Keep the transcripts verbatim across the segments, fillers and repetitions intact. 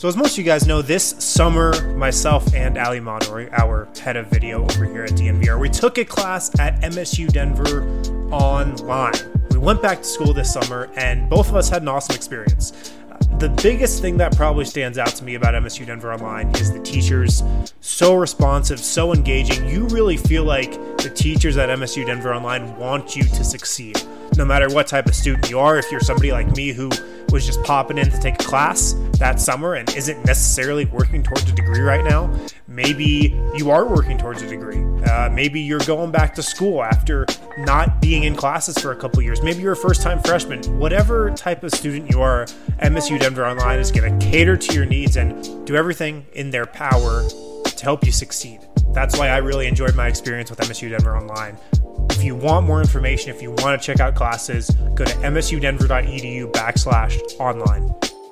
So as most of you guys know, this summer, myself and Ali Monroy, our head of video over here at D N V R, we took a class at M S U Denver online. We went back to school this summer, and both of us had an awesome experience. The biggest thing that probably stands out to me about M S U Denver Online is the teachers. So responsive, so engaging. You really feel like the teachers at M S U Denver Online want you to succeed. No matter what type of student you are, if you're somebody like me who was just popping in to take a class that summer and isn't necessarily working towards a degree right now, maybe you are working towards a degree. Uh, maybe you're going back to school after not being in classes for a couple years. Maybe you're a first-time freshman. Whatever type of student you are, M S U Denver Online is going to cater to your needs and do everything in their power to help you succeed. That's why I really enjoyed my experience with M S U Denver Online. If you want more information, if you want to check out classes, go to msudenver.edu backslash online.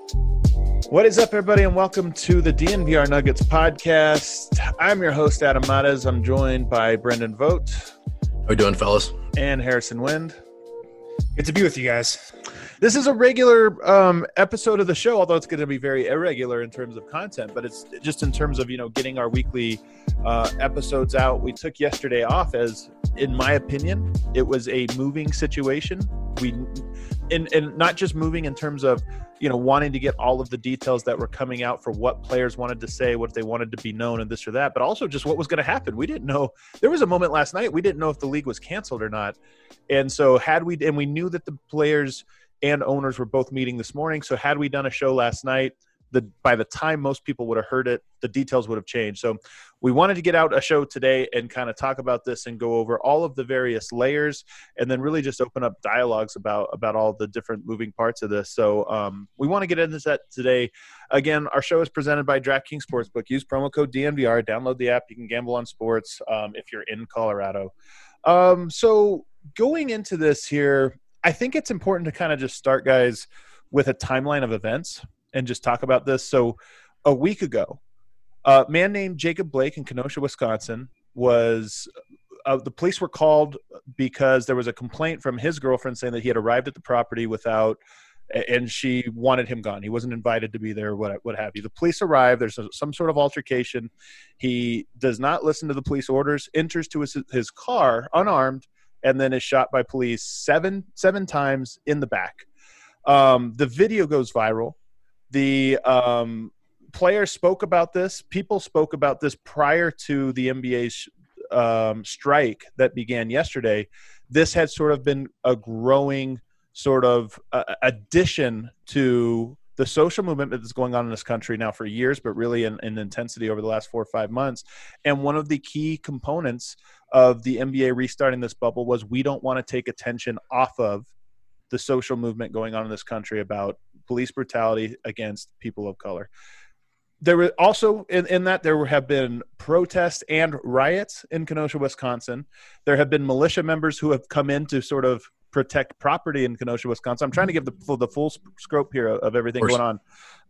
What is up, everybody, and welcome to the D N V R Nuggets podcast. I'm your host, Adam Matas. I'm joined by Brendan Vogt. How we doing, fellas? And Harrison Wind. Good to be with you guys. This is a regular um, episode of the show, although it's going to be very irregular in terms of content, but it's just in terms of, you know, getting our weekly uh, episodes out. We took yesterday off as, in my opinion, it was a moving situation. We, and, and not just moving in terms of, you know, wanting to get all of the details that were coming out for what players wanted to say, what they wanted to be known, and this or that, but also just what was going to happen. We didn't know. There was a moment last night, we didn't know if the league was canceled or not. And so had we, and we knew that the players and owners were both meeting this morning. So had we done a show last night, the by the time most people would have heard it, the details would have changed. So we wanted to get out a show today and kind of talk about this and go over all of the various layers and then really just open up dialogues about, about all the different moving parts of this. So um, we want to get into that today. Again, our show is presented by DraftKings Sportsbook. Use promo code D N V R. Download the app. You can gamble on sports um, if you're in Colorado. Um, so going into this here, I think it's important to kind of just start, guys, with a timeline of events and just talk about this. So a week ago, a man named Jacob Blake in Kenosha, Wisconsin, was uh, – the police were called because there was a complaint from his girlfriend saying that he had arrived at the property without – and she wanted him gone. He wasn't invited to be there, what, what have you. The police arrive. There's a, some sort of altercation. He does not listen to the police orders, enters to his, his car unarmed, and then is shot by police seven seven times in the back. Um, the video goes viral. The um, players spoke about this. People spoke about this prior to the N B A's um, strike that began yesterday. This had sort of been a growing sort of uh, addition to the social movement that's going on in this country now for years, but really in, in intensity over the last four or five months. And one of the key components of the N B A restarting this bubble was we don't want to take attention off of the social movement going on in this country about police brutality against people of color. There were also in, in that there have been protests and riots in Kenosha, Wisconsin. There have been militia members who have come in to sort of protect property in Kenosha, Wisconsin. I'm trying to give the full, the full scope here of everything of going on.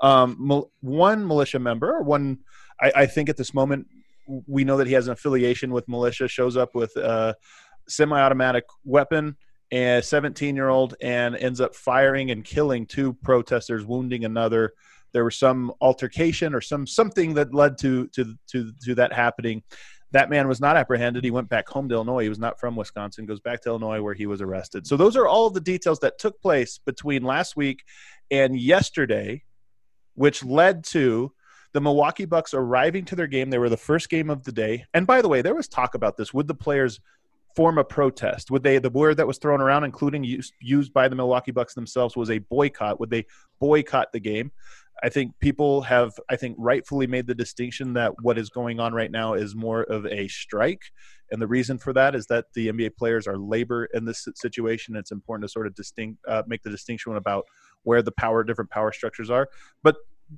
Um, one militia member, one, I, I think at this moment, we know that he has an affiliation with militia, shows up with a semi-automatic weapon, a seventeen-year-old, and ends up firing and killing two protesters, wounding another. There was some altercation or some something that led to to to, to that happening. That man was not apprehended. He went back home to Illinois. He was not from Wisconsin, goes back to Illinois where he was arrested. So those are all of the details that took place between last week and yesterday, which led to the Milwaukee Bucks arriving to their game. They were the first game of the day. And by the way, there was talk about this. Would the players form a protest? Would they, the word that was thrown around, including used, used by the Milwaukee Bucks themselves, was a boycott. Would they boycott the game? I think people have, I think, rightfully made the distinction that what is going on right now is more of a strike. And the reason for that is that the N B A players are labor in this situation. It's important to sort of distinct, uh, make the distinction about where the power, different power structures are. But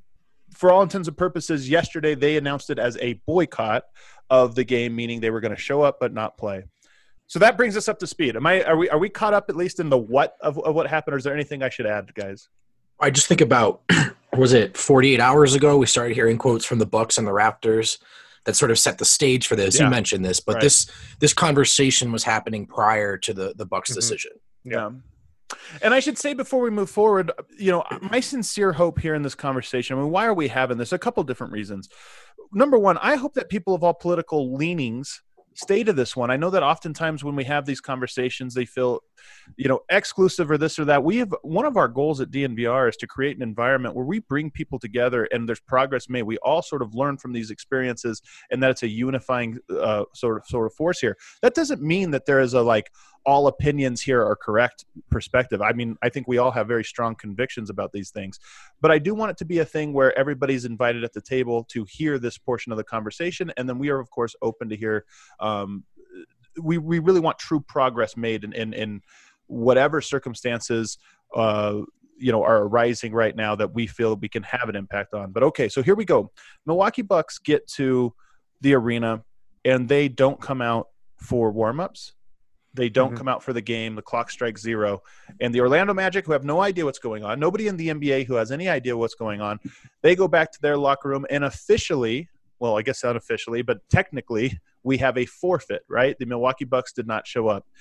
for all intents and purposes, yesterday they announced it as a boycott of the game, meaning they were going to show up but not play. So that brings us up to speed. Am I? Are we? Are we caught up at least in the what of, of what happened, or is there anything I should add, guys? I just think about, was it forty-eight hours ago we started hearing quotes from the Bucks and the Raptors that sort of set the stage for this. Yeah. You mentioned this, but right. this this conversation was happening prior to the the Bucks' mm-hmm. decision. Yeah. And I should say before we move forward, you know, my sincere hope here in this conversation, I mean, why are we having this? A couple different reasons. Number one, I hope that people of all political leanings stay to this one. I know that oftentimes when we have these conversations, they feel, you know, exclusive or this or that. We have one of our goals at D N V R is to create an environment where we bring people together and there's progress made. We all sort of learn from these experiences, and that it's a unifying uh, sort of sort of force here. That doesn't mean that there is a like all opinions here are correct perspective. I mean, I think we all have very strong convictions about these things, but I do want it to be a thing where everybody's invited at the table to hear this portion of the conversation. And then we are, of course, open to hear, um, we, we really want true progress made in, in, in whatever circumstances, uh, you know, are arising right now that we feel we can have an impact on. But okay, so here we go. Milwaukee Bucks get to the arena and they don't come out for warmups. They don't mm-hmm. come out for the game. The clock strikes zero. And the Orlando Magic, who have no idea what's going on, nobody in the N B A who has any idea what's going on, they go back to their locker room and officially, well, I guess unofficially, but technically, we have a forfeit, right? The Milwaukee Bucks did not show up.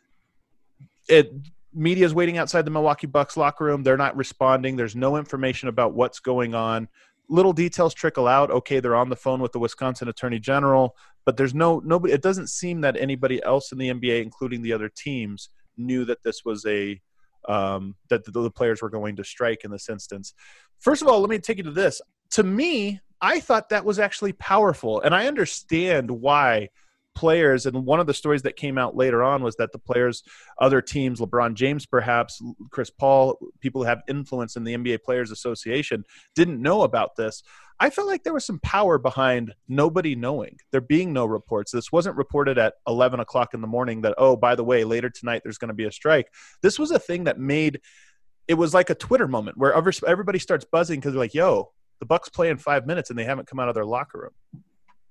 It media is waiting outside the Milwaukee Bucks locker room. They're not responding. There's no information about what's going on. Little details trickle out. Okay, they're on the phone with the Wisconsin Attorney General, but there's no nobody. It doesn't seem that anybody else in the N B A, including the other teams, knew that this was a um, that the, the players were going to strike in this instance. First of all, let me take you to this. To me, I thought that was actually powerful, and I understand why players, and one of the stories that came out later on was that the players, other teams, LeBron James perhaps, Chris Paul, people who have influence in the N B A Players Association, didn't know about this. I felt like there was some power behind nobody knowing. There being no reports. This wasn't reported at eleven o'clock in the morning that, oh, by the way, later tonight there's going to be a strike. This was a thing that made – it was like a Twitter moment where everybody starts buzzing because they're like, yo, the Bucks play in five minutes and they haven't come out of their locker room.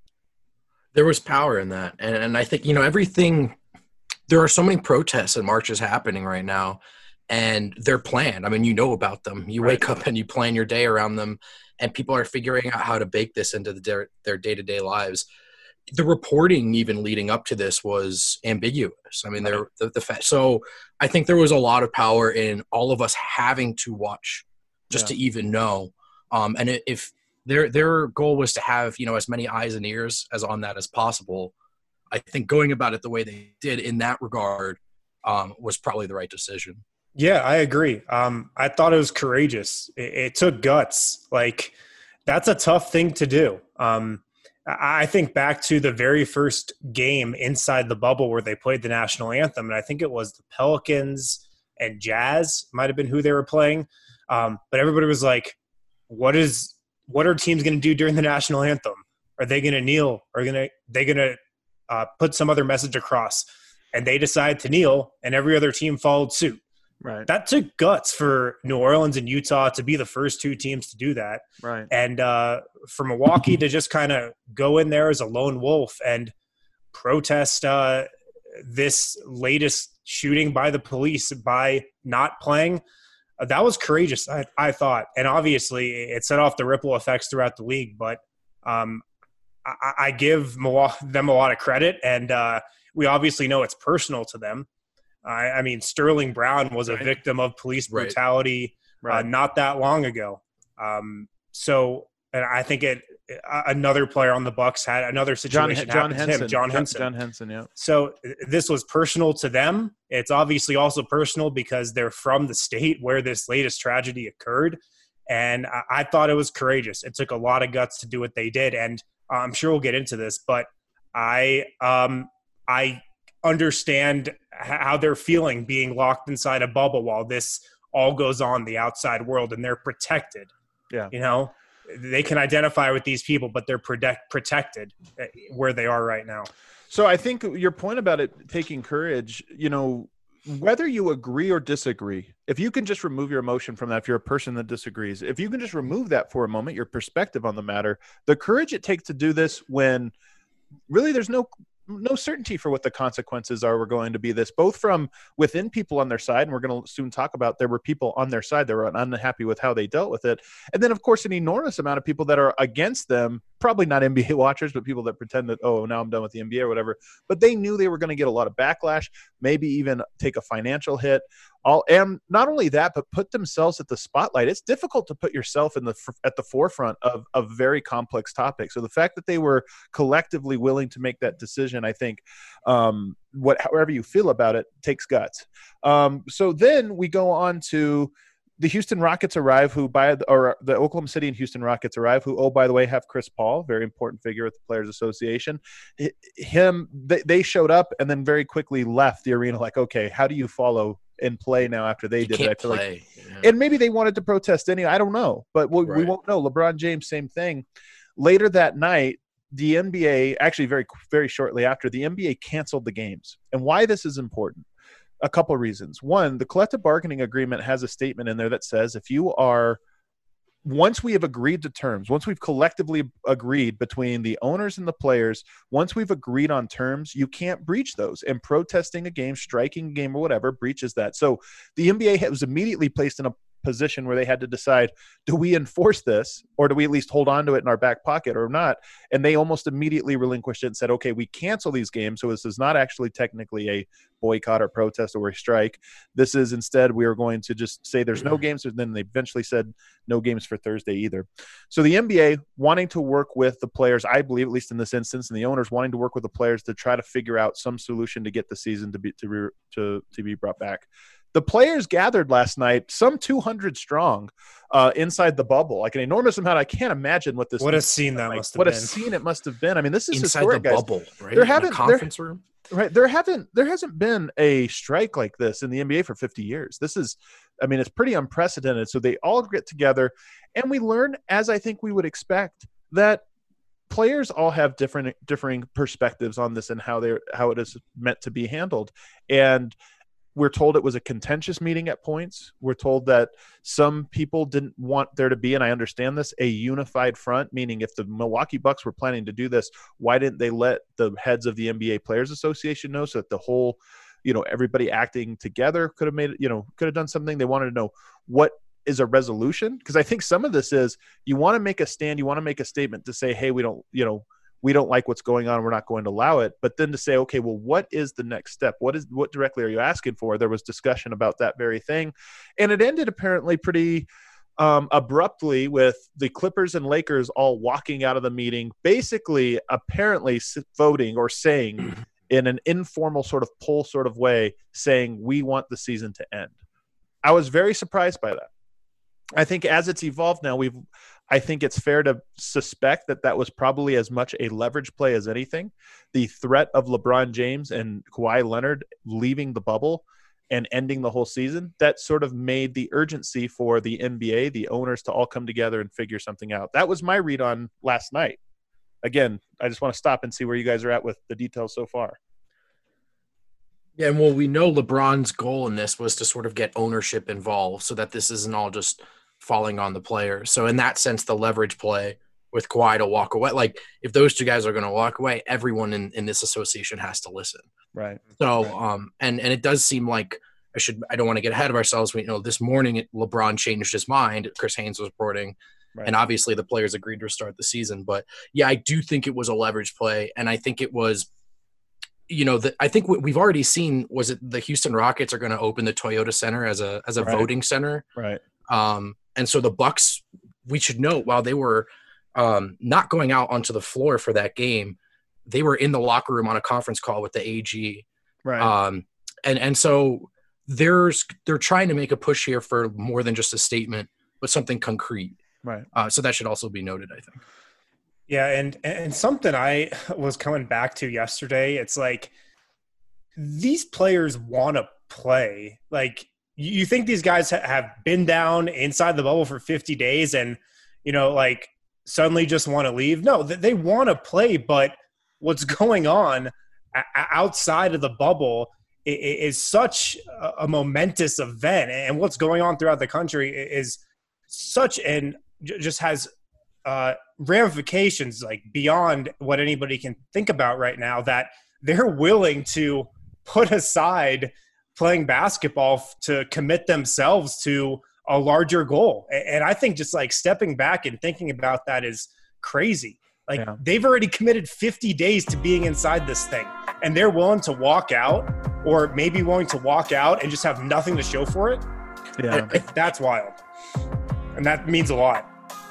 There was power in that. And, and I think, you know, everything – there are so many protests and marches happening right now, and they're planned. I mean, you know about them. You right. wake up and you plan your day around them, and people are figuring out how to bake this into the, their, their day-to-day lives. The reporting even leading up to this was ambiguous. I mean, right. there the, the fa- so I think there was a lot of power in all of us having to watch just yeah. to even know. Um, and if their their goal was to have, you know, as many eyes and ears as on that as possible, I think going about it the way they did in that regard um, was probably the right decision. Yeah, I agree. Um, I thought it was courageous. It, it took guts. Like, that's a tough thing to do. Um, I think back to the very first game inside the bubble where they played the national anthem, and I think it was the Pelicans and Jazz might have been who they were playing. Um, but everybody was like, what is what are teams going to do during the national anthem? Are they going to kneel? Are gonna they going to uh, put some other message across? And they decided to kneel, and every other team followed suit. Right. That took guts for New Orleans and Utah to be the first two teams to do that. Right. And uh, for Milwaukee to just kind of go in there as a lone wolf and protest uh, this latest shooting by the police by not playing, uh, that was courageous, I, I thought. And obviously it set off the ripple effects throughout the league. But um, I, I give Milwaukee, them a lot of credit. And uh, we obviously know it's personal to them. I, I mean, Sterling Brown was a right. victim of police brutality right. Right. Uh, not that long ago. Um, so, and I think it uh, another player on the Bucks had another situation. John, John happen to Henson. him, John Henson. John Henson. Yeah. So this was personal to them. It's obviously also personal because they're from the state where this latest tragedy occurred, and I, I thought it was courageous. It took a lot of guts to do what they did, and uh, I'm sure we'll get into this, but I, um, I. understand how they're feeling being locked inside a bubble while this all goes on in the outside world, and they're protected. Yeah. You know, they can identify with these people, but they're protect, protected where they are right now. So I think your point about it taking courage, you know, whether you agree or disagree, if you can just remove your emotion from that, if you're a person that disagrees, if you can just remove that for a moment, your perspective on the matter, the courage it takes to do this when really there's no no certainty for what the consequences are were going to be this, both from within people on their side, and we're going to soon talk about there were people on their side that were unhappy with how they dealt with it. And then, of course, an enormous amount of people that are against them, probably not N B A watchers, but people that pretend that, oh, now I'm done with the N B A or whatever. But they knew they were going to get a lot of backlash, maybe even take a financial hit. all, and not only that, but put themselves at the spotlight. It's difficult to put yourself in the at the forefront of of very complex topics. So the fact that they were collectively willing to make that decision, I think, um, what however you feel about it, takes guts. Um, so then we go on to the Houston Rockets arrive, who by the, or the Oklahoma City and Houston Rockets arrive, who, oh, by the way, have Chris Paul, very important figure at the Players Association. Him, they, they showed up and then very quickly left the arena. Like, okay, how do you follow and play now after they you did can't it? I feel play. like, yeah. and maybe they wanted to protest anyway. I don't know, but we, Right. we won't know. LeBron James, same thing. Later that night, the N B A, actually very, very shortly after, the N B A canceled the games. And why this is important? A couple of reasons. One, the collective bargaining agreement has a statement in there that says if you are, once we have agreed to terms, once we've collectively agreed between the owners and the players, once we've agreed on terms, you can't breach those. And protesting a game, striking a game or whatever breaches that. So the N B A was immediately placed in a position where they had to decide, do we enforce this or do we at least hold on to it in our back pocket or not? And they almost immediately relinquished it and said, okay, we cancel these games. So this is not actually technically a boycott or protest or a strike. This is instead, we are going to just say there's no games. And then they eventually said no games for Thursday either. So the N B A wanting to work with the players, I believe, at least in this instance, and the owners wanting to work with the players to try to figure out some solution to get the season to be, to, re, to, to be brought back. The players gathered last night, some two hundred strong, uh, inside the bubble, like an enormous amount. I can't imagine what this. What a scene that like. must have what been. What a scene it must have been. I mean, this is inside historic, the guys. bubble, right? There In a haven't conference there, room, right? There haven't there hasn't been a strike like this in the N B A for fifty years. This is, I mean, it's pretty unprecedented. So they all get together, and we learn, as I think we would expect, that players all have different differing perspectives on this and how they how it is meant to be handled. And we're told it was a contentious meeting at points. We're told that some people didn't want there to be, and I understand this, a unified front, meaning if the Milwaukee Bucks were planning to do this, why didn't they let the heads of the N B A Players Association know so that the whole, you know, everybody acting together could have made it, you know, could have done something. They wanted to know what is a resolution. Because I think some of this is you want to make a stand, you want to make a statement to say, hey, we don't, you know, we don't like what's going on. We're not going to allow it. But then to say, okay, well, what is the next step? What is what directly are you asking for? There was discussion about that very thing. And it ended apparently pretty um, abruptly with the Clippers and Lakers all walking out of the meeting, basically apparently voting or saying in an informal sort of poll sort of way, saying we want the season to end. I was very surprised by that. I think as it's evolved now, we've I think it's fair to suspect that that was probably as much a leverage play as anything. The threat of LeBron James and Kawhi Leonard leaving the bubble and ending the whole season, that sort of made the urgency for the N B A, the owners, to all come together and figure something out. That was my read on last night. Again, I just want to stop and see where you guys are at with the details so far. Yeah, and well, we know LeBron's goal in this was to sort of get ownership involved so that this isn't all just falling on the players. So in that sense, the leverage play with Kawhi to walk away, like if those two guys are going to walk away, everyone in, in this association has to listen. Right. So, right. um, and, and it does seem like I should, I don't want to get ahead of ourselves. We, you know, this morning it, LeBron changed his mind. Chris Haynes was reporting, right. And obviously the players agreed to restart the season. But yeah, I do think it was a leverage play. And I think it was, you know, the, I think what we've already seen was it the Houston Rockets are going to open the Toyota Center as a, as a right. voting center. Right. Um, and so the Bucks, we should note, while they were um, not going out onto the floor for that game, they were in the locker room on a conference call with the A G. Right. Um, and, and so there's, they're trying to make a push here for more than just a statement, but something concrete. Right. Uh, so that should also be noted, I think. Yeah. And, and something I was coming back to yesterday, it's like these players want to play. Like, you think these guys have been down inside the bubble for fifty days and, you know, like suddenly just want to leave? No, they want to play, but what's going on outside of the bubble is such a momentous event. And what's going on throughout the country is such and just has uh, ramifications like beyond what anybody can think about right now, that they're willing to put aside playing basketball to commit themselves to a larger goal. And I think just like stepping back and thinking about that is crazy. Like yeah. They've already committed fifty days to being inside this thing. and they're willing to walk out, or maybe willing to walk out and just have nothing to show for it, Yeah. that's wild. And that means a lot.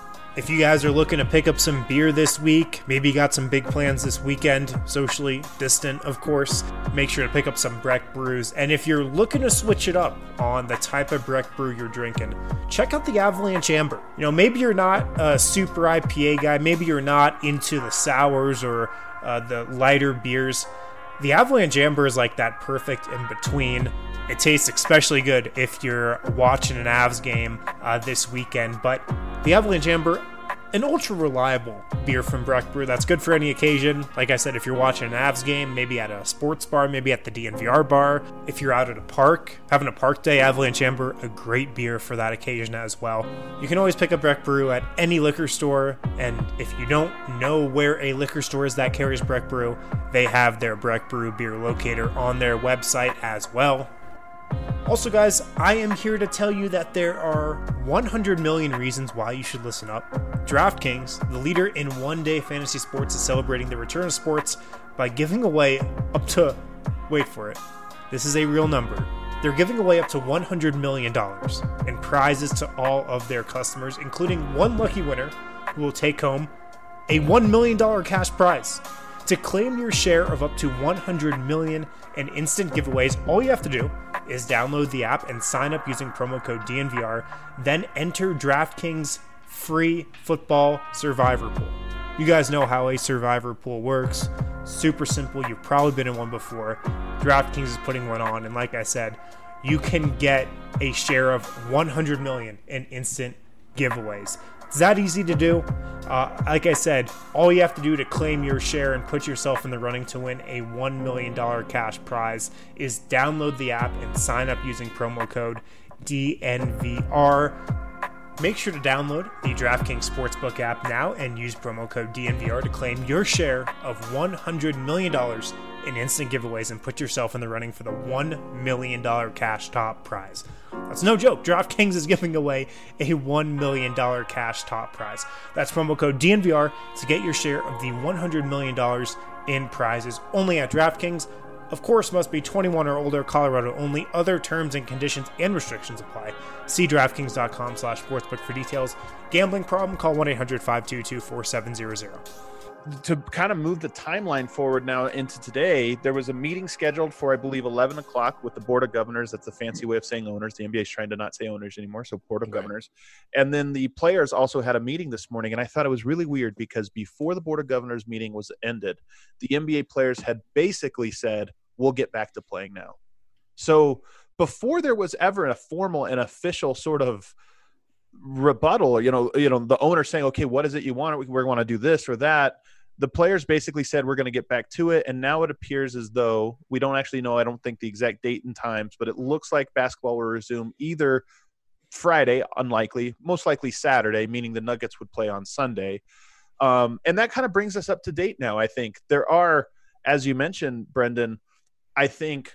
If you guys are looking to pick up some beer this week, maybe you got some big plans this weekend, socially distant, of course, make sure to pick up some Breck brews. And if you're looking to switch it up on the type of Breck brew you're drinking, check out the Avalanche Amber. You know, maybe you're not a super I P A guy, maybe you're not into the sours or uh, the lighter beers. The Avalanche Amber is like that perfect in between. It tastes especially good if you're watching an Avs game uh, this weekend. But the Avalanche Amber, an ultra reliable beer from Breck Brew that's good for any occasion. Like I said, if you're watching an Avs game, maybe at a sports bar, maybe at the D N V R bar. If you're out at a park, having a park day, Avalanche Amber, a great beer for that occasion as well. You can always pick up Breck Brew at any liquor store. And if you don't know where a liquor store is that carries Breck Brew, they have their Breck Brew beer locator on their website as well. Also, guys, I am here to tell you that there are one hundred million reasons why you should listen up. DraftKings, the leader in one-day fantasy sports, is celebrating the return of sports by giving away up to, wait for it, this is a real number. They're giving away up to one hundred million dollars in prizes to all of their customers, including one lucky winner who will take home a one million dollars cash prize. To claim your share of up to one hundred million dollars in instant giveaways, all you have to do is download the app and sign up using promo code D N V R, then enter DraftKings free football survivor pool. You guys know how a survivor pool works. Super simple. You've probably been in one before. DraftKings is putting one on, and like I said, you can get a share of one hundred million dollars in instant giveaways. It's that easy to do. Uh, like I said, all you have to do to claim your share and put yourself in the running to win a one million dollars cash prize is download the app and sign up using promo code D N V R. Make sure to download the DraftKings Sportsbook app now and use promo code D N V R to claim your share of one hundred million dollars in instant giveaways and put yourself in the running for the one million dollars cash top prize. That's no joke. DraftKings is giving away a one million dollars cash top prize. That's promo code D N V R to get your share of the one hundred million dollars in prizes only at DraftKings. Of course, must be twenty-one or older, Colorado only. Other terms and conditions and restrictions apply. See DraftKings.com slash sportsbook for details. Gambling problem? Call one eight hundred five two two four seven zero zero. To kind of move the timeline forward now into today, there was a meeting scheduled for, I believe, eleven o'clock with the Board of Governors. That's a fancy way of saying owners. The N B A is trying to not say owners anymore, so Board of Right. Governors. And then the players also had a meeting this morning, and I thought it was really weird because before the Board of Governors meeting was ended, the N B A players had basically said, we'll get back to playing now. So before there was ever a formal and official sort of rebuttal, you know, you know, the owner saying, okay, what is it you want? We want to do this or that. The players basically said, we're going to get back to it. And now it appears as though we don't actually know, I don't think the exact date and times, but it looks like basketball will resume either Friday, unlikely, most likely Saturday, meaning the Nuggets would play on Sunday. Um, and that kind of brings us up to date now, I think. There are, as you mentioned, Brendan, I think,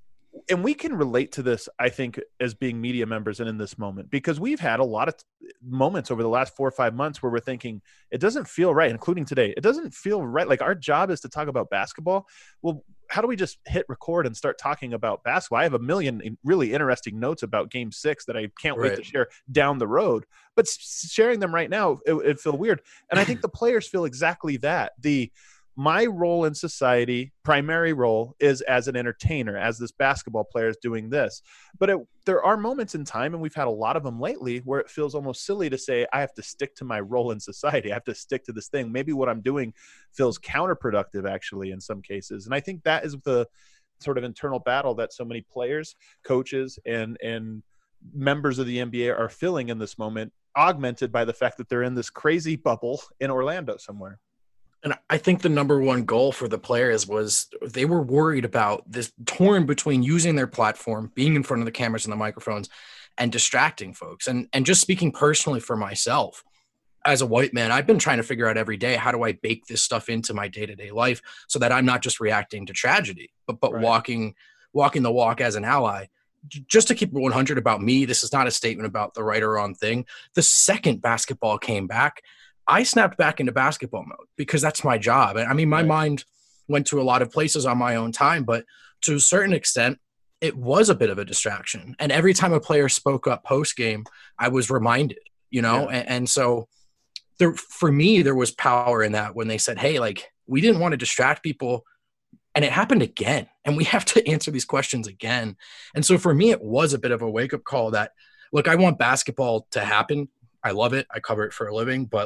and we can relate to this, I think, as being media members and in this moment, because we've had a lot of t- moments over the last four or five months where we're thinking, it doesn't feel right, including today. It doesn't feel right. Like, our job is to talk about basketball. Well, how do we just hit record and start talking about basketball? I have a million really interesting notes about game six that I can't Right. wait to share down the road, but s- sharing them right now, it, it feel weird. And I think the players feel exactly that. The, My role in society, primary role, is as an entertainer, as this basketball player is doing this. But it, there are moments in time, and we've had a lot of them lately, where it feels almost silly to say, I have to stick to my role in society. I have to stick to this thing. Maybe what I'm doing feels counterproductive, actually, in some cases. And I think that is the sort of internal battle that so many players, coaches, and and members of the N B A are feeling in this moment, augmented by the fact that they're in this crazy bubble in Orlando somewhere. And I think the number one goal for the players was they were worried about this torn between using their platform, being in front of the cameras and the microphones, and distracting folks. And and just speaking personally for myself, as a white man, I've been trying to figure out every day, how do I bake this stuff into my day-to-day life so that I'm not just reacting to tragedy, but but Right. walking walking the walk as an ally. Just to keep it one hundred about me, this is not a statement about the right or wrong thing. The second basketball came back, I snapped back into basketball mode because that's my job. I mean, my Right. mind, went to a lot of places on my own time, but to a certain extent, it was a bit of a distraction. And every time a player spoke up post game, I was reminded, you know, yeah. and, and so there, for me, there was power in that when they said, hey, like, we didn't want to distract people. And it happened again. And we have to answer these questions again. And so for me, it was a bit of a wake up call that, look, I want basketball to happen. I love it. I cover it for a living, but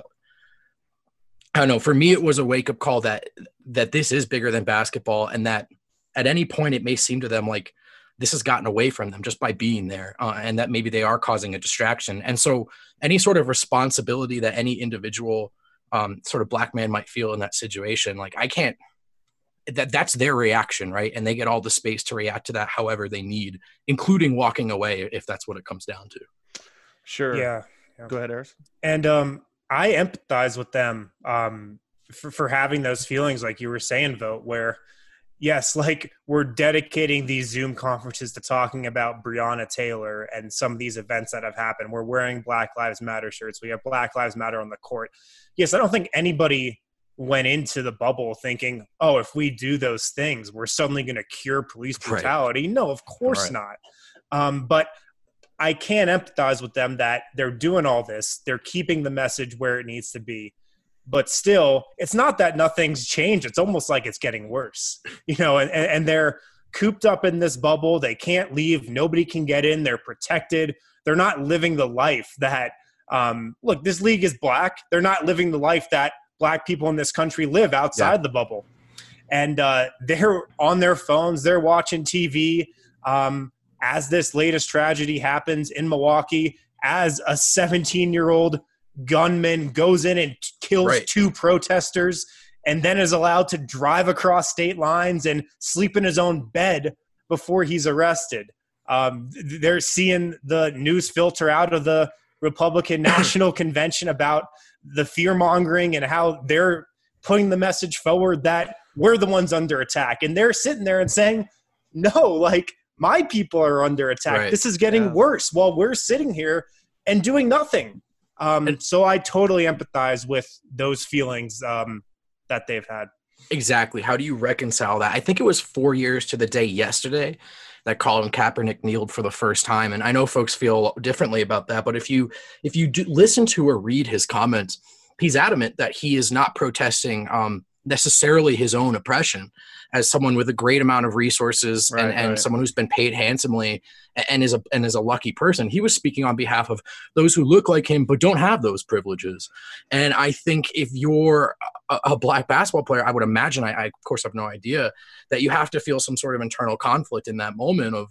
I don't know. For me, it was a wake up call that, that this is bigger than basketball. And that at any point it may seem to them like this has gotten away from them just by being there. Uh, and that maybe they are causing a distraction. And so any sort of responsibility that any individual um, sort of black man might feel in that situation, like I can't, that that's their reaction, right? And they get all the space to react to that however they need, including walking away if that's what it comes down to. Sure. Yeah. yeah. Go ahead, Harris. And um, I empathize with them um, for, for having those feelings, like you were saying, Vote, where, yes, like we're dedicating these Zoom conferences to talking about Breonna Taylor and some of these events that have happened. We're wearing Black Lives Matter shirts. We have Black Lives Matter on the court. Yes, I don't think anybody went into the bubble thinking, oh, if we do those things, we're suddenly going to cure police brutality. Right. No, of course right. not. Um, but I can empathize with them that they're doing all this. They're keeping the message where it needs to be. But still, it's not that nothing's changed. It's almost like it's getting worse, you know, and, and they're cooped up in this bubble. They can't leave. Nobody can get in. They're protected. They're not living the life that, um, look, this league is black. They're not living the life that black people in this country live outside yeah. the bubble. And uh, they're on their phones. They're watching T V um, as this latest tragedy happens in Milwaukee, as a seventeen-year-old gunman goes in and kills right. two protesters and then is allowed to drive across state lines and sleep in his own bed before he's arrested. Um, they're seeing the news filter out of the Republican National Convention about the fear mongering and how they're putting the message forward that we're the ones under attack. And they're sitting there and saying, no, like my people are under attack. Right. This is getting yeah. worse while we're sitting here and doing nothing. Um, and so I totally empathize with those feelings um, that they've had. Exactly. How do you reconcile that? I think it was four years to the day yesterday that Colin Kaepernick kneeled for the first time. And I know folks feel differently about that, but if you if you do listen to or read his comments, he's adamant that he is not protesting um, necessarily his own oppression as someone with a great amount of resources right, and, and right. someone who's been paid handsomely and is a and is a lucky person. He was speaking on behalf of those who look like him but don't have those privileges. And I think if you're a, a black basketball player, I would imagine, I, I of course have no idea, that you have to feel some sort of internal conflict in that moment of,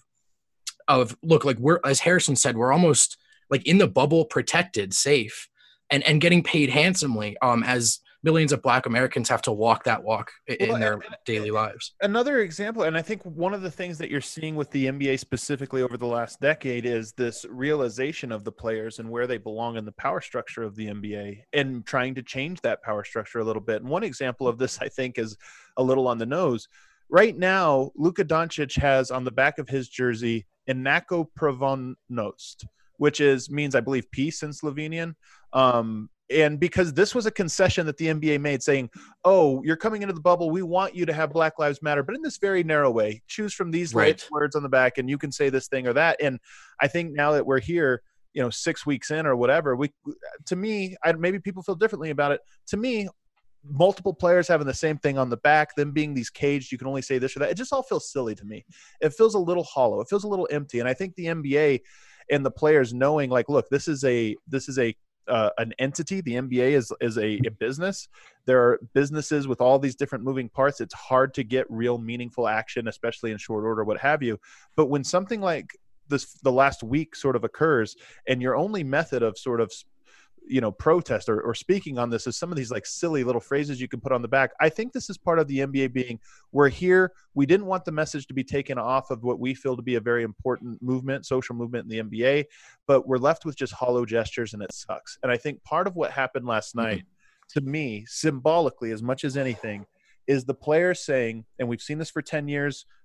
of look, like we're, as Harrison said, we're almost like in the bubble, protected, safe, and, and getting paid handsomely um, as millions of black Americans have to walk that walk in well, their daily lives. Another example, and I think one of the things that you're seeing with the N B A specifically over the last decade is this realization of the players and where they belong in the power structure of the N B A and trying to change that power structure a little bit. And one example of this, I think, is a little on the nose. Right now, Luka Doncic has on the back of his jersey, Inako Provonost, which is means, I believe, peace in Slovenian. Um, And because this was a concession that the N B A made saying, oh, you're coming into the bubble, we want you to have Black Lives Matter, but in this very narrow way. Choose from these right. words on the back and you can say this thing or that. And I think now that we're here, you know, six weeks in or whatever, we, to me, I, maybe people feel differently about it. To me, multiple players having the same thing on the back, them being these caged, you can only say this or that. It just all feels silly to me. It feels a little hollow. It feels a little empty. And I think the N B A and the players knowing like, look, this is a, this is a, Uh, an entity. The N B A is is a, a business. There are businesses with all these different moving parts. It's hard to get real meaningful action, especially in short order, what have you. But when something like this, the last week sort of occurs, and your only method of sort of, you know, protest or, or speaking on this is some of these like silly little phrases you can put on the back. I think this is part of the N B A being, we're here. We didn't want the message to be taken off of what we feel to be a very important movement, social movement in the N B A, but we're left with just hollow gestures and it sucks. And I think part of what happened last night, mm-hmm. to me, symbolically, as much as anything, is the players saying, and we've seen this for ten years,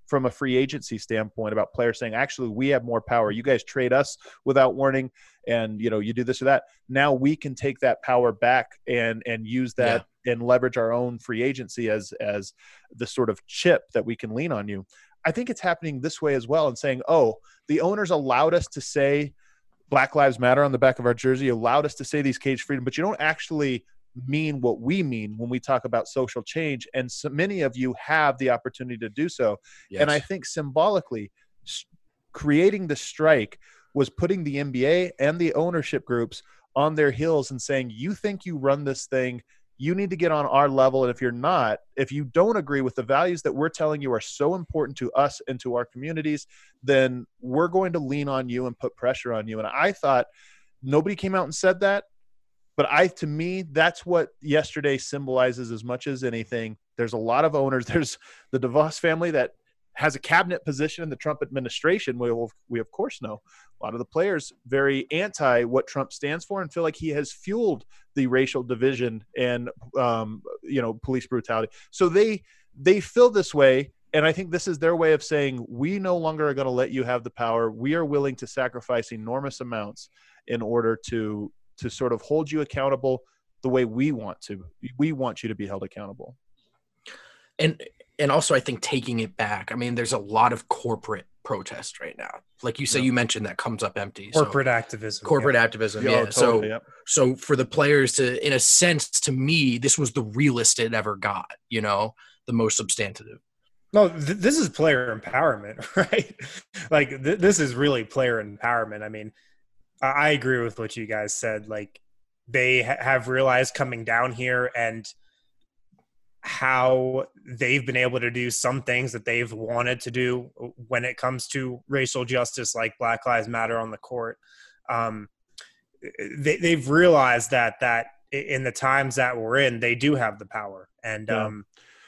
from a free agency standpoint about players saying, actually, we have more power. You guys trade us without warning, and you know, you do this or that. Now we can take that power back and and use that yeah. and leverage our own free agency as as the sort of chip that we can lean on you. I think it's happening this way as well, and saying, oh, the owners allowed us to say Black Lives Matter on the back of our jersey, allowed us to say these cage freedom, but you don't actually mean what we mean when we talk about social change. And so many of you have the opportunity to do so. Yes. And I think symbolically creating the strike was putting the N B A and the ownership groups on their heels and saying, you think you run this thing, you need to get on our level. And if you're not, if you don't agree with the values that we're telling you are so important to us and to our communities, then we're going to lean on you and put pressure on you. And I thought nobody came out and said that. But I, to me, that's what yesterday symbolizes as much as anything. There's a lot of owners. There's the DeVos family that has a cabinet position in the Trump administration. We, will, we of course know a lot of the players very anti what Trump stands for and feel like he has fueled the racial division and, um, you know, police brutality. So they they feel this way. And I think this is their way of saying, we no longer are going to let you have the power. We are willing to sacrifice enormous amounts in order to to sort of hold you accountable the way we want to. We want you to be held accountable. And and also I think taking it back. I mean, there's a lot of corporate protest right now. Like you say, yeah. you mentioned that comes up empty. Corporate so, activism. Corporate yeah. activism, yeah. yeah. Totally, so yeah. so for the players to, in a sense, to me, this was the realest it ever got, you know, the most substantive. No, th- this is player empowerment, right? Like th- this is really player empowerment. I mean, I agree with what you guys said. Like they ha- have realized coming down here and how they've been able to do some things that they've wanted to do when it comes to racial justice, like Black Lives Matter on the court. Um, they, they've realized that, that in the times that we're in, they do have the power. And, yeah. um,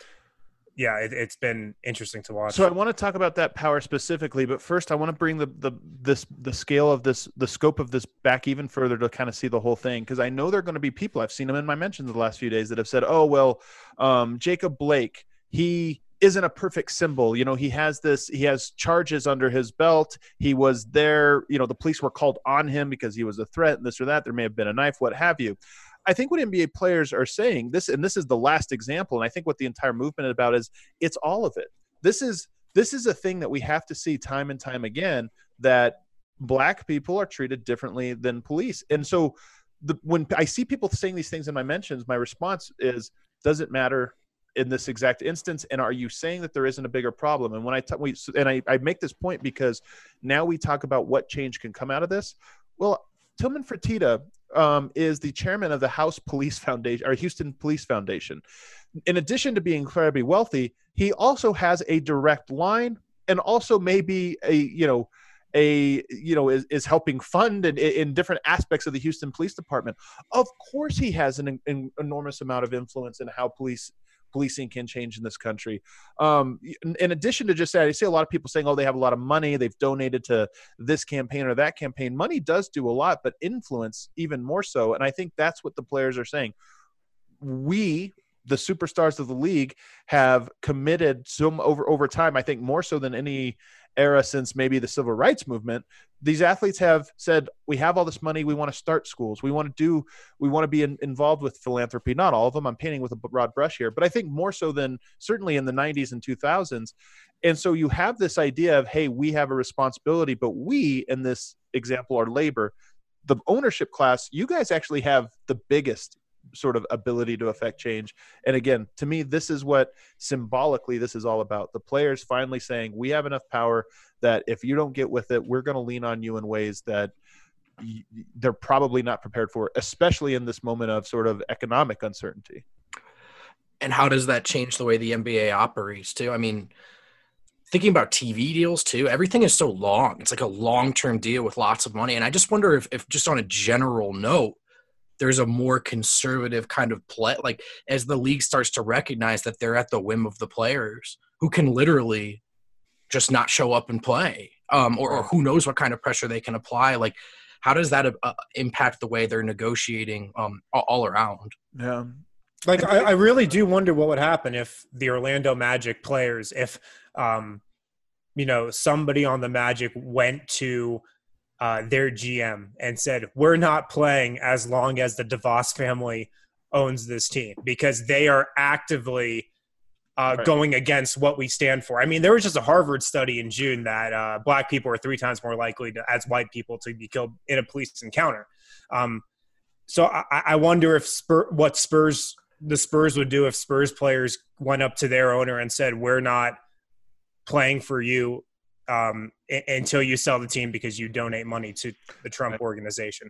yeah, it, it's been interesting to watch. So I want to talk about that power specifically, but first I want to bring the the this the scale of this, the scope of this back even further to kind of see the whole thing, because I know there are going to be people, I've seen them in my mentions the last few days, that have said, "Oh well, um, Jacob Blake, he isn't a perfect symbol. You know, he has this, he has charges under his belt. He was there. You know, the police were called on him because he was a threat, and this or that. There may have been a knife, what have you." I think what N B A players are saying this, and this is the last example, and I think what the entire movement is about is it's all of it. This is this is a thing that we have to see time and time again, that Black people are treated differently than police. And so the, when I see people saying these things in my mentions, my response is, does it matter in this exact instance? And are you saying that there isn't a bigger problem? And when I t- we, and I, I make this point because now we talk about what change can come out of this. Well, Tillman Fertitta um, is the chairman of the House Police Foundation, or Houston Police Foundation. In addition to being incredibly wealthy, he also has a direct line, and also maybe a you know a you know is, is helping fund in, in different aspects of the Houston Police Department. Of course, he has an, an enormous amount of influence in how police. Policing can change in this country. Um, in, in addition to just that, I see a lot of people saying, oh, they have a lot of money, they've donated to this campaign or that campaign. Money does do a lot, but influence even more so. And I think that's what the players are saying. We, the superstars of the league, have committed some over, over time, I think more so than any era since maybe the civil rights movement. These athletes have said, we have all this money, we want to start schools, we want to do we want to be in, involved with philanthropy. Not all of them, I'm painting with a broad brush here, but I think more so than certainly in the nineties and two thousands. And so you have this idea of, hey, we have a responsibility, but we, in this example, are labor. The ownership class, you guys actually have the biggest sort of ability to affect change. And again, to me, this is what symbolically this is all about. The players finally saying, we have enough power that if you don't get with it, we're going to lean on you in ways that y- they're probably not prepared for, especially in this moment of sort of economic uncertainty. And how does that change the way the N B A operates too? I mean, thinking about T V deals too, everything is so long. It's like a long-term deal with lots of money. And I just wonder if, if just on a general note, there's a more conservative kind of play, like as the league starts to recognize that they're at the whim of the players who can literally just not show up and play, um, or, or who knows what kind of pressure they can apply. Like, how does that uh, impact the way they're negotiating um, all around? Yeah. Like, I, I really do wonder what would happen if the Orlando Magic players, if um, you know, somebody on the Magic went to uh, their G M and said, we're not playing as long as the DeVos family owns this team, because they are actively uh, Right. going against what we stand for. I mean, there was just a Harvard study in June that uh, black people are three times more likely to, as white people, to be killed in a police encounter. Um, so I, I wonder if Spur, what Spurs, the Spurs would do if Spurs players went up to their owner and said, we're not playing for you um, I- until you sell the team because you donate money to the Trump Right. organization.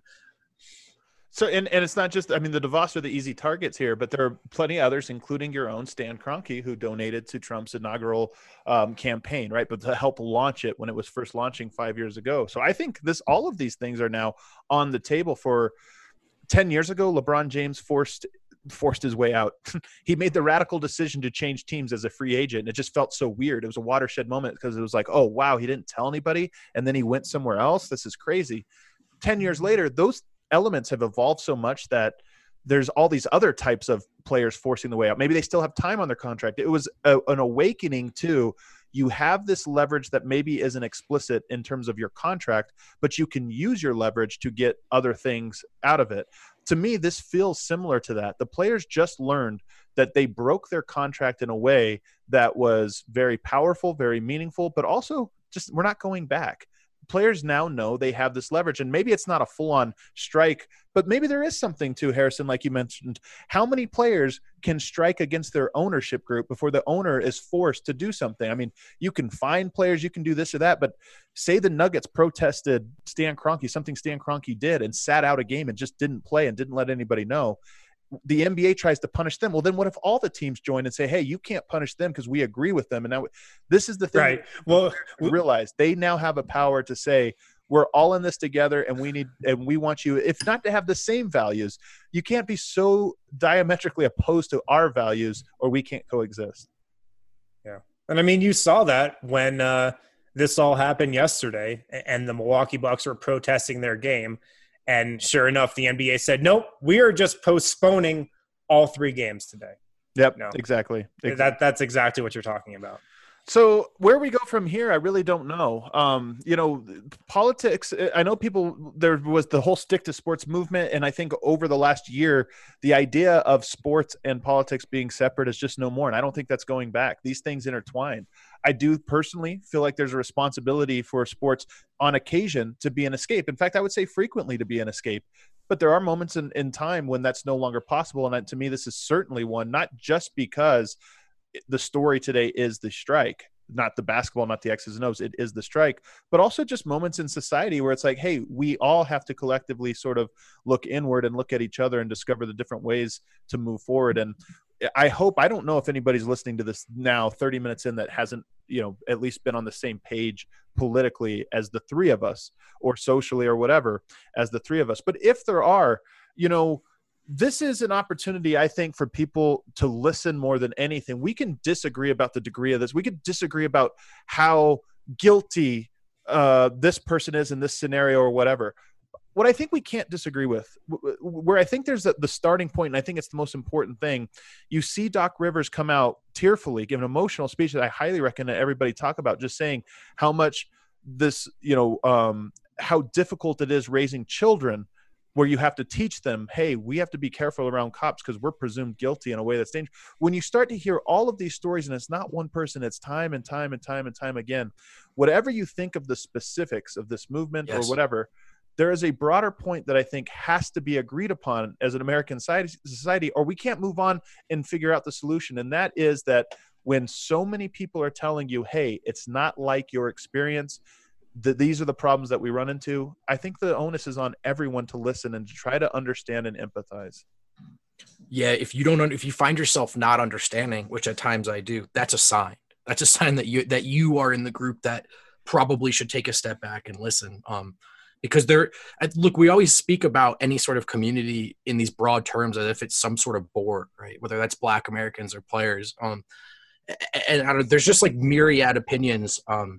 So, and, and it's not just, I mean, the DeVos are the easy targets here, but there are plenty of others, including your own Stan Kroenke, who donated to Trump's inaugural um, campaign, right? But to help launch it when it was first launching five years ago. So I think this, all of these things are now on the table. For ten years ago, LeBron James forced forced his way out. He made the radical decision to change teams as a free agent. And it just felt so weird. It was a watershed moment because it was like, oh, wow, he didn't tell anybody. And then he went somewhere else. This is crazy. ten years later, those elements have evolved so much that there's all these other types of players forcing the way out. Maybe they still have time on their contract. It was a, an awakening to, you have this leverage that maybe isn't explicit in terms of your contract, but you can use your leverage to get other things out of it. To me, this feels similar to that. The players just learned that they broke their contract in a way that was very powerful, very meaningful, but also just, we're not going back. Players now know they have this leverage, and maybe it's not a full-on strike, but maybe there is something to, Harrison, like you mentioned. How many players can strike against their ownership group before the owner is forced to do something? I mean, you can find players, you can do this or that, but say the Nuggets protested Stan Kroenke, something Stan Kroenke did, and sat out a game and just didn't play and didn't let anybody know. The N B A tries to punish them. Well, then what if all the teams join and say, hey, you can't punish them because we agree with them? And now this is the thing. Right. Well, we realize they now have a power to say, we're all in this together, and we need, and we want you, if not to have the same values, you can't be so diametrically opposed to our values or we can't coexist. Yeah. And I mean, you saw that when uh, this all happened yesterday and the Milwaukee Bucks were protesting their game. And sure enough, the N B A said, nope, we are just postponing all three games today. Yep, no. exactly. exactly. That That's exactly what you're talking about. So where we go from here, I really don't know. Um, you know, politics, I know people, there was the whole stick to sports movement. And I think over the last year, the idea of sports and politics being separate is just no more. And I don't think that's going back. These things intertwine. I do personally feel like there's a responsibility for sports on occasion to be an escape. In fact, I would say frequently to be an escape. But there are moments in, in time when that's no longer possible. And to me, this is certainly one, not just because the story today is the strike, not the basketball, not the X's and O's, it is the strike, but also just moments in society where it's like, hey, we all have to collectively sort of look inward and look at each other and discover the different ways to move forward. And I hope, I don't know if anybody's listening to this now thirty minutes in that hasn't, you know, at least been on the same page politically as the three of us, or socially or whatever as the three of us. But if there are, you know, this is an opportunity, I think, for people to listen more than anything. We can disagree about the degree of this. We could disagree about how guilty uh, this person is in this scenario or whatever. What I think we can't disagree with, where I think there's a, the starting point, and I think it's the most important thing, you see Doc Rivers come out tearfully, give an emotional speech that I highly recommend everybody talk about, just saying how much this, you know, um, how difficult it is raising children, where you have to teach them, hey, we have to be careful around cops because we're presumed guilty in a way that's dangerous. When you start to hear all of these stories, and it's not one person, it's time and time and time and time again, whatever you think of the specifics of this movement Yes. or whatever, there is a broader point that I think has to be agreed upon as an American society, or we can't move on and figure out the solution. And that is that when so many people are telling you, hey, it's not like your experience, that these are the problems that we run into, I think the onus is on everyone to listen and to try to understand and empathize. Yeah, if you don't, if you find yourself not understanding, which at times I do, that's a sign. That's a sign that you that you are in the group that probably should take a step back and listen. Um, because there, look, we always speak about any sort of community in these broad terms as if it's some sort of board, right? Whether that's Black Americans or players. Um, and, and I don't, there's just like myriad opinions um,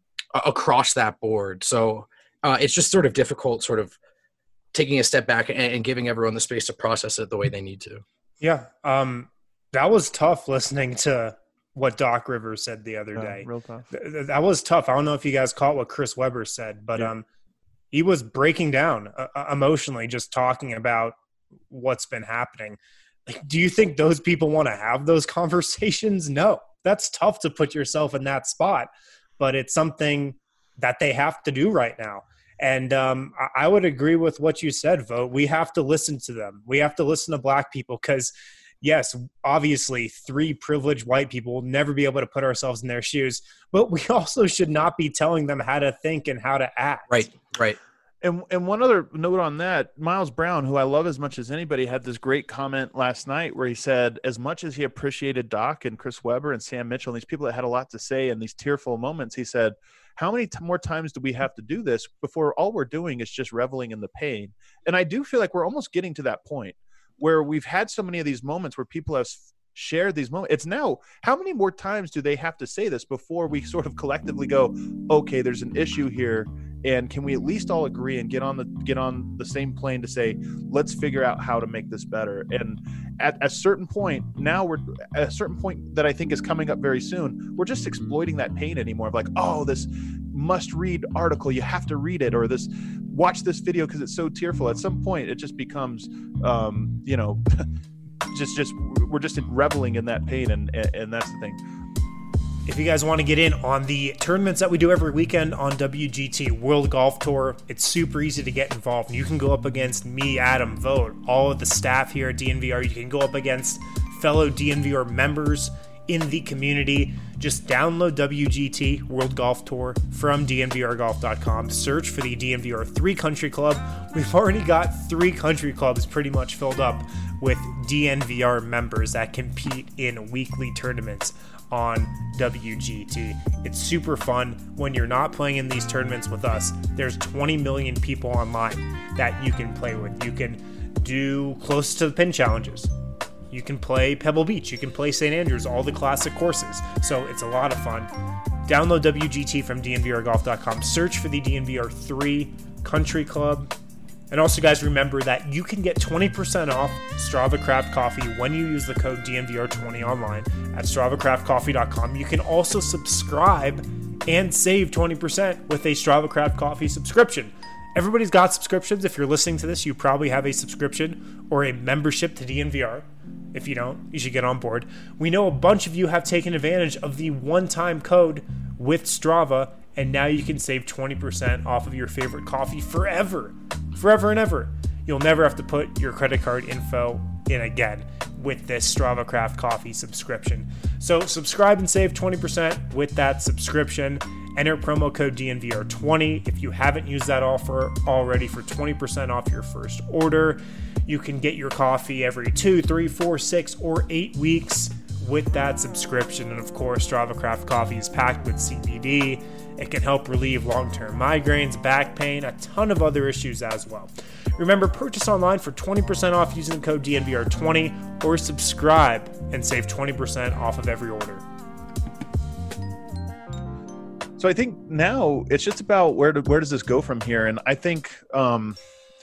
across that board. So uh, it's just sort of difficult, sort of taking a step back and, and giving everyone the space to process it the way they need to. Yeah. Um, that was tough listening to what Doc Rivers said the other Yeah, day. real tough. Th- that was tough. I don't know if you guys caught what Chris Webber said, but Yeah. um, he was breaking down uh, emotionally, just talking about what's been happening. Like, do you think those people want to have those conversations? No, that's tough to put yourself in that spot, but it's something that they have to do right now. And um, I would agree with what you said, Vogt. We have to listen to them. We have to listen to Black people because, yes, obviously three privileged white people will never be able to put ourselves in their shoes, but we also should not be telling them how to think and how to act. Right, right. And and one other note on that, Miles Brown, who I love as much as anybody, had this great comment last night where he said, as much as he appreciated Doc and Chris Webber and Sam Mitchell and these people that had a lot to say in these tearful moments, he said, how many t- more times do we have to do this before all we're doing is just reveling in the pain? And I do feel like we're almost getting to that point where we've had so many of these moments where people have shared these moments. It's now, how many more times do they have to say this before we sort of collectively go, okay, there's an issue here, and can we at least all agree and get on the get on the same plane to say, let's figure out how to make this better? And at a certain point, now we're at a certain point that I think is coming up very soon, we're just exploiting that pain anymore of like, oh, this must read article, you have to read it, or this watch this video because it's so tearful. At some point it just becomes um you know just just we're just reveling in that pain, and and that's the thing. If you guys want to get in on the tournaments that we do every weekend on W G T World Golf Tour, it's super easy to get involved. You can go up against me, Adam, Vogt, all of the staff here at D N V R. You can go up against fellow D N V R members in the community. Just download W G T World Golf Tour from D N V R golf dot com. Search for the D N V R three Country Club. We've already got three country clubs pretty much filled up with D N V R members that compete in weekly tournaments on W G T. It's super fun when you're not playing in these tournaments with us. There's twenty million people online that you can play with. You can do close to the pin challenges. You can play Pebble Beach. You can play Saint Andrews, all the classic courses. So it's a lot of fun. Download W G T from D N V R golf dot com. Search for the D N V R three Country Club. And also, guys, remember that you can get twenty percent off Strava Craft Coffee when you use the code D N V R twenty online at strava craft coffee dot com. You can also subscribe and save twenty percent with a Strava Craft Coffee subscription. Everybody's got subscriptions. If you're listening to this, you probably have a subscription or a membership to D N V R. If you don't, you should get on board. We know a bunch of you have taken advantage of the one-time code with Strava, and now you can save twenty percent off of your favorite coffee forever. Forever and ever. You'll never have to put your credit card info in again with this Strava Craft Coffee subscription. So subscribe and save twenty percent with that subscription. Enter promo code D N V R twenty if you haven't used that offer already for twenty percent off your first order. You can get your coffee every two, three, four, six, or eight weeks with that subscription. And of course, Strava Craft Coffee is packed with C B D. It can help relieve long-term migraines, back pain, a ton of other issues as well. Remember, purchase online for twenty percent off using the code D N V R twenty, or subscribe and save twenty percent off of every order. So I think now it's just about where do, where does this go from here? And I think um,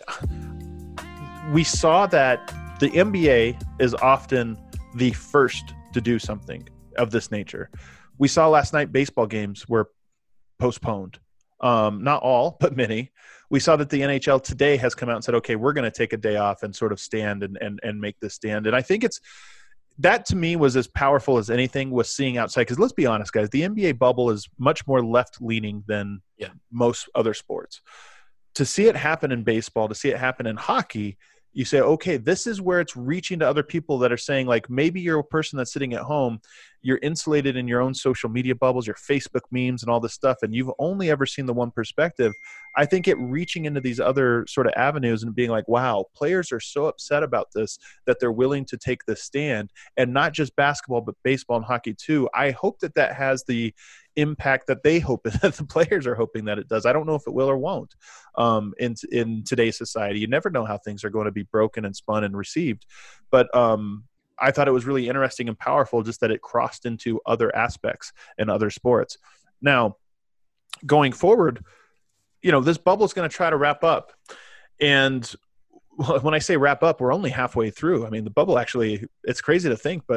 we saw that the N B A is often the first to do something of this nature. We saw last night baseball games were postponed. Um, not all, but many. We saw that the N H L today has come out and said, okay, we're going to take a day off and sort of stand and, and, and make this stand. And I think it's, that to me was as powerful as anything was seeing outside. Because let's be honest, guys, the N B A bubble is much more left-leaning than yeah. most other sports. To see it happen in baseball, to see it happen in hockey, you say, okay, this is where it's reaching to other people that are saying, like, maybe you're a person that's sitting at home, you're insulated in your own social media bubbles, your Facebook memes and all this stuff, and you've only ever seen the one perspective. I think it reaching into these other sort of avenues and being like, wow, players are so upset about this that they're willing to take this stand, and not just basketball, but baseball and hockey too. I hope that that has the impact that they hope that the players are hoping that it does. I don't know if it will or won't. Um, in in today's society, you never know how things are going to be broken and spun and received. But um, I thought it was really interesting and powerful just that it crossed into other aspects and other sports. Now, going forward, you know, this bubble is going to try to wrap up. And when I say wrap up, we're only halfway through. I mean, the bubble actually, it's crazy to think, but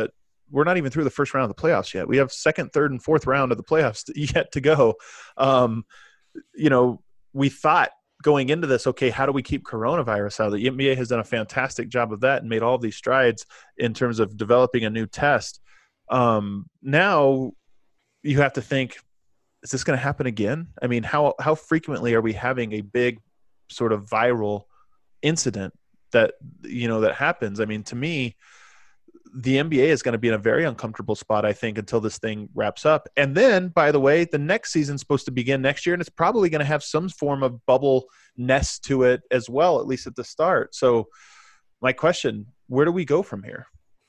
we're not even through the first round of the playoffs yet. We have second, third, and fourth round of the playoffs yet to go. Um, you know, we thought going into this, okay, how do we keep coronavirus out? The N B A has done a fantastic job of that and made all these strides in terms of developing a new test. Um, now you have to think, is this going to happen again? I mean, how how frequently are we having a big sort of viral incident that, you know, that happens? I mean, to me, the N B A is going to be in a very uncomfortable spot, I think, until this thing wraps up. And then, by the way, the next season's supposed to begin next year, and it's probably going to have some form of bubble nest to it as well, at least at the start. So my question, where do we go from here?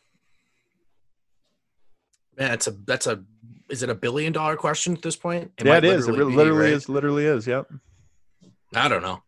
Man, it's a that's a is it a billion dollar question at this point? It yeah, it is. It really, be, literally right? is. Literally is. Yep. I don't know.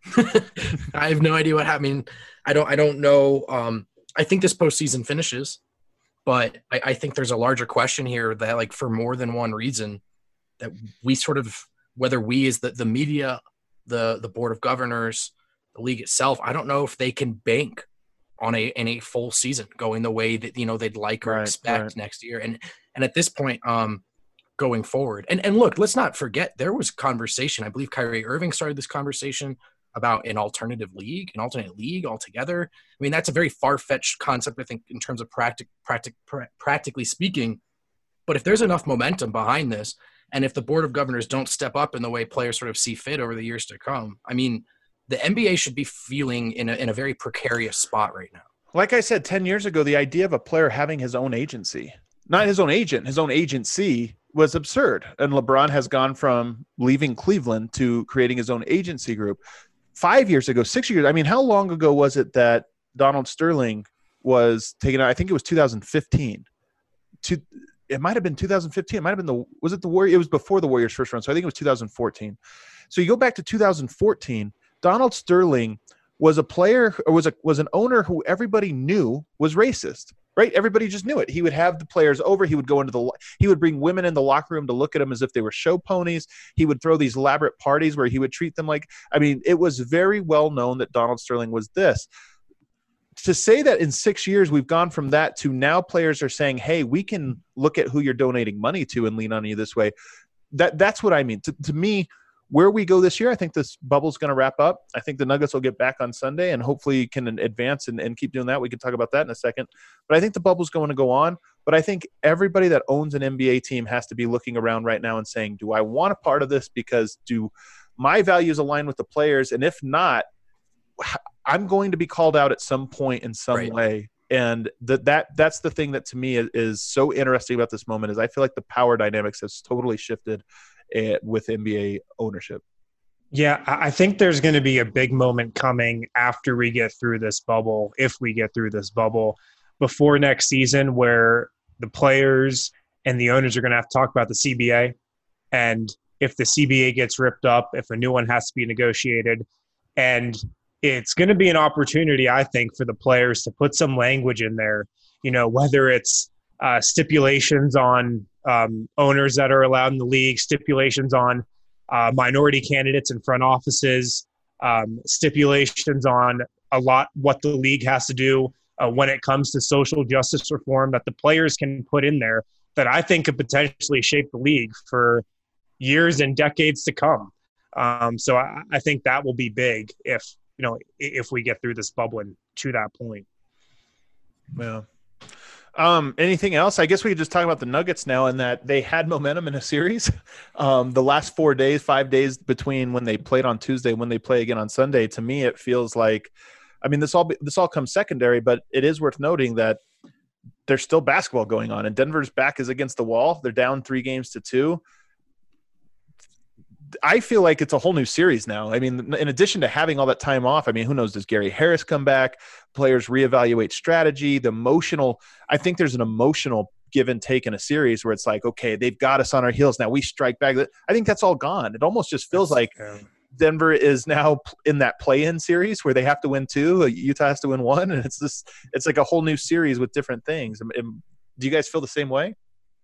I have no idea what happened. I mean, I don't. I don't know. Um, I think this postseason finishes, but I, I think there's a larger question here that, like, for more than one reason, that we sort of, whether we as the the media, the the board of governors, the league itself, I don't know if they can bank on a in a full season going the way that, you know, they'd like or right, expect right. next year. And and at this point, um, going forward, and and look, let's not forget there was conversation. I believe Kyrie Irving started this conversation about an alternative league, an alternate league altogether. I mean, that's a very far-fetched concept, I think, in terms of practic, practic, pra- practically speaking. But if there's enough momentum behind this, and if the board of governors don't step up in the way players sort of see fit over the years to come, I mean, the N B A should be feeling in a, in a very precarious spot right now. Like I said, ten years ago, the idea of a player having his own agency, not his own agent, his own agency, was absurd. And LeBron has gone from leaving Cleveland to creating his own agency group. Five years ago, six years, I mean, how long ago was it that Donald Sterling was taken out? I think it was two thousand fifteen. To, it might have been two thousand fifteen. It might have been the – was it the Warriors? It was before the Warriors' first run, so I think it was two thousand fourteen. So you go back to two thousand fourteen, Donald Sterling was a player or was a was an owner who everybody knew was racist, right? Everybody just knew it. He would have the players over. He would go into the he would bring women in the locker room to look at them as if they were show ponies. He would throw these elaborate parties where he would treat them like – I mean, it was very well known that Donald Sterling was this. To say that in six years we've gone from that to now players are saying, hey, we can look at who you're donating money to and lean on you this way. That That's what I mean. To, to me – where we go this year, I think this bubble's going to wrap up. I think the Nuggets will get back on Sunday and hopefully can advance and, and keep doing that. We can talk about that in a second. But I think the bubble's going to go on. But I think everybody that owns an N B A team has to be looking around right now and saying, do I want a part of this because do my values align with the players? And if not, I'm going to be called out at some point in some right. way. And that that that's the thing that to me is, is so interesting about this moment is I feel like the power dynamics has totally shifted with N B A ownership. Yeah, I think there's going to be a big moment coming after we get through this bubble, if we get through this bubble, before next season, where the players and the owners are going to have to talk about the C B A. And if the C B A gets ripped up, if a new one has to be negotiated. And it's going to be an opportunity, I think, for the players to put some language in there, you know, whether it's uh, stipulations on Um, owners that are allowed in the league, stipulations on uh, minority candidates in front offices, um, stipulations on a lot what the league has to do uh, when it comes to social justice reform that the players can put in there that I think could potentially shape the league for years and decades to come. Um, so I, I think that will be big if, you know, if we get through this bubble and to that point. Yeah. Um, anything else? I guess we could just talk about the Nuggets now and that they had momentum in a series. Um, the last four days, five days between when they played on Tuesday, when they play again on Sunday, to me, it feels like, I mean, this all, this all comes secondary, but it is worth noting that there's still basketball going on and Denver's back is against the wall. They're down three games to two. I feel like it's a whole new series now. I mean, in addition to having all that time off, I mean, who knows, does Gary Harris come back? Players reevaluate strategy, the emotional – I think there's an emotional give and take in a series where it's like, okay, they've got us on our heels. Now we strike back. I think that's all gone. It almost just feels like Denver is now in that play-in series where they have to win two, Utah has to win one, and it's just – it's like a whole new series with different things. Do you guys feel the same way?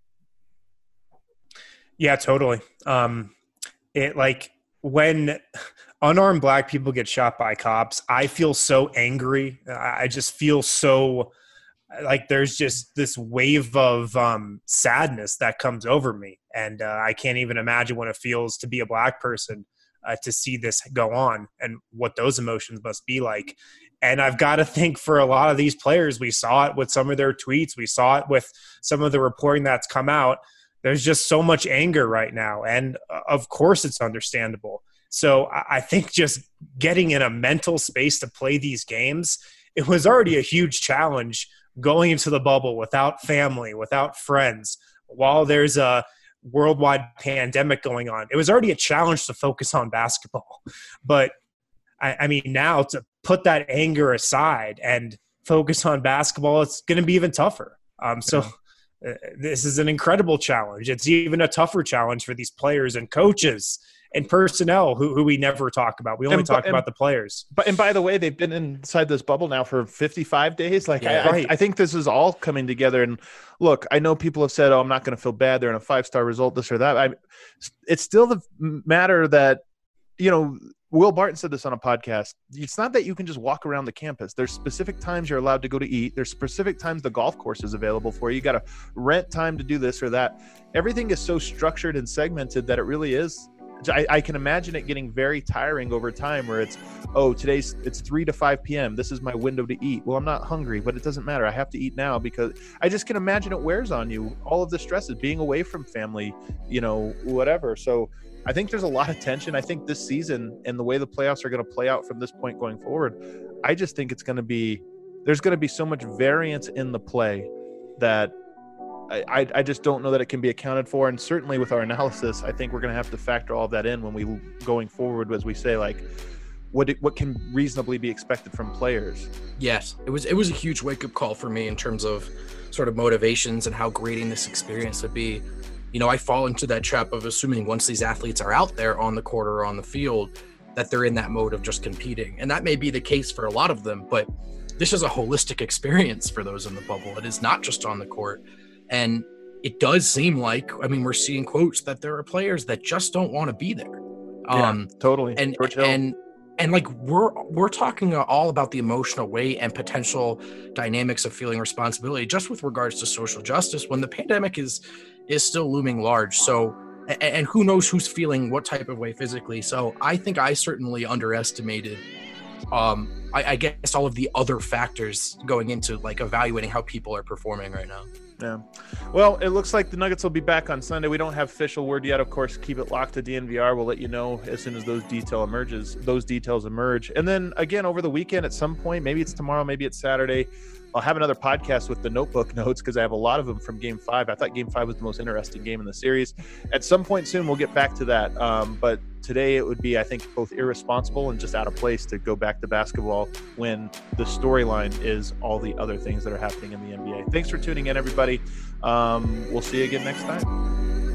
Yeah, totally. Um It like when unarmed black people get shot by cops, I feel so angry. I just feel so like there's just this wave of um, sadness that comes over me. And uh, I can't even imagine what it feels to be a Black person uh, to see this go on and what those emotions must be like. And I've got to think for a lot of these players, we saw it with some of their tweets. We saw it with some of the reporting that's come out. There's just so much anger right now. And uh, of course it's understandable. So I, I think just getting in a mental space to play these games, it was already a huge challenge going into the bubble without family, without friends, while there's a worldwide pandemic going on. It was already a challenge to focus on basketball. But I, I mean, now to put that anger aside and focus on basketball, it's going to be even tougher. Um, so uh, this is an incredible challenge. It's even a tougher challenge for these players and coaches and personnel who, who we never talk about. We only and, talk and, about the players. But and by the way, they've been inside this bubble now for fifty-five days. Like yeah, I, right. I, I think this is all coming together. And look, I know people have said, "Oh, I'm not going to feel bad. They're in a five-star result, this or that." I, it's still the matter that, you know, Will Barton said this on a podcast. It's not that you can just walk around the campus. There's specific times you're allowed to go to eat. There's specific times the golf course is available for you. You got to rent time to do this or that. Everything is so structured and segmented that it really is. I, I can imagine it getting very tiring over time where it's, oh, today's it's three to five p.m. This is my window to eat. Well, I'm not hungry, but it doesn't matter. I have to eat now because I just can imagine it wears on you. All of the stresses, being away from family, you know, whatever. So I think there's a lot of tension. I think this season and the way the playoffs are going to play out from this point going forward, I just think it's going to be, there's going to be so much variance in the play that I, I just don't know that it can be accounted for. And certainly with our analysis, I think we're going to have to factor all of that in when we going forward, as we say, like what it, what can reasonably be expected from players. Yes, it was it was a huge wake up call for me in terms of sort of motivations and how grating this experience would be. You know, I fall into that trap of assuming once these athletes are out there on the court or on the field, that they're in that mode of just competing. And that may be the case for a lot of them, but this is a holistic experience for those in the bubble. It is not just on the court. And it does seem like, I mean, we're seeing quotes that there are players that just don't want to be there. Yeah, um, totally. And, and, and like, we're, we're talking all about the emotional weight and potential dynamics of feeling responsibility just with regards to social justice when the pandemic is, is still looming large. So, and, and who knows who's feeling what type of way physically. So I think I certainly underestimated um, I, I guess all of the other factors going into like evaluating how people are performing right now. Yeah. Well, it looks like the Nuggets will be back on Sunday. We don't have official word yet. Of course, keep it locked to D N V R. We'll let you know as soon as those detail emerges, those details emerge. And then again, over the weekend at some point, maybe it's tomorrow, maybe it's Saturday, I'll have another podcast with the notebook notes because I have a lot of them from game five. I thought game five was the most interesting game in the series. At some point soon, we'll get back to that. Um, but today it would be, I think, both irresponsible and just out of place to go back to basketball when the storyline is all the other things that are happening in the N B A. Thanks for tuning in, everybody. Um, we'll see you again next time.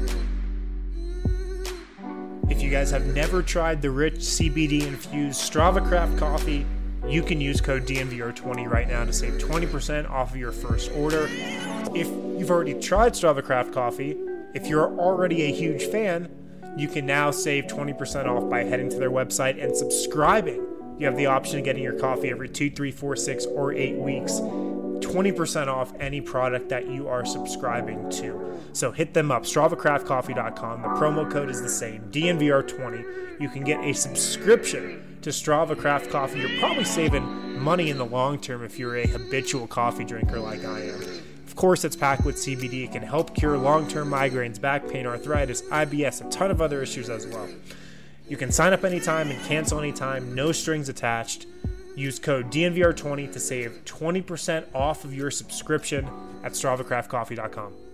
If you guys have never tried the rich C B D-infused Strava Craft coffee, you can use code D N V R twenty right now to save twenty percent off of your first order. If you've already tried Strava Craft coffee, if you're already a huge fan, you can now save twenty percent off by heading to their website and subscribing. You have the option of getting your coffee every two, three, four, six, or eight weeks. twenty percent off any product that you are subscribing to. So hit them up, strava craft coffee dot com. The promo code is the same, D N V R twenty. You can get a subscription to Strava Craft Coffee. You're probably saving money in the long term if you're a habitual coffee drinker like I am. Of course, it's packed with C B D. It can help cure long-term migraines, back pain, arthritis, I B S, a ton of other issues as well. You can sign up anytime and cancel anytime, no strings attached. Use code D N V R twenty to save twenty percent off of your subscription at strava craft coffee dot com.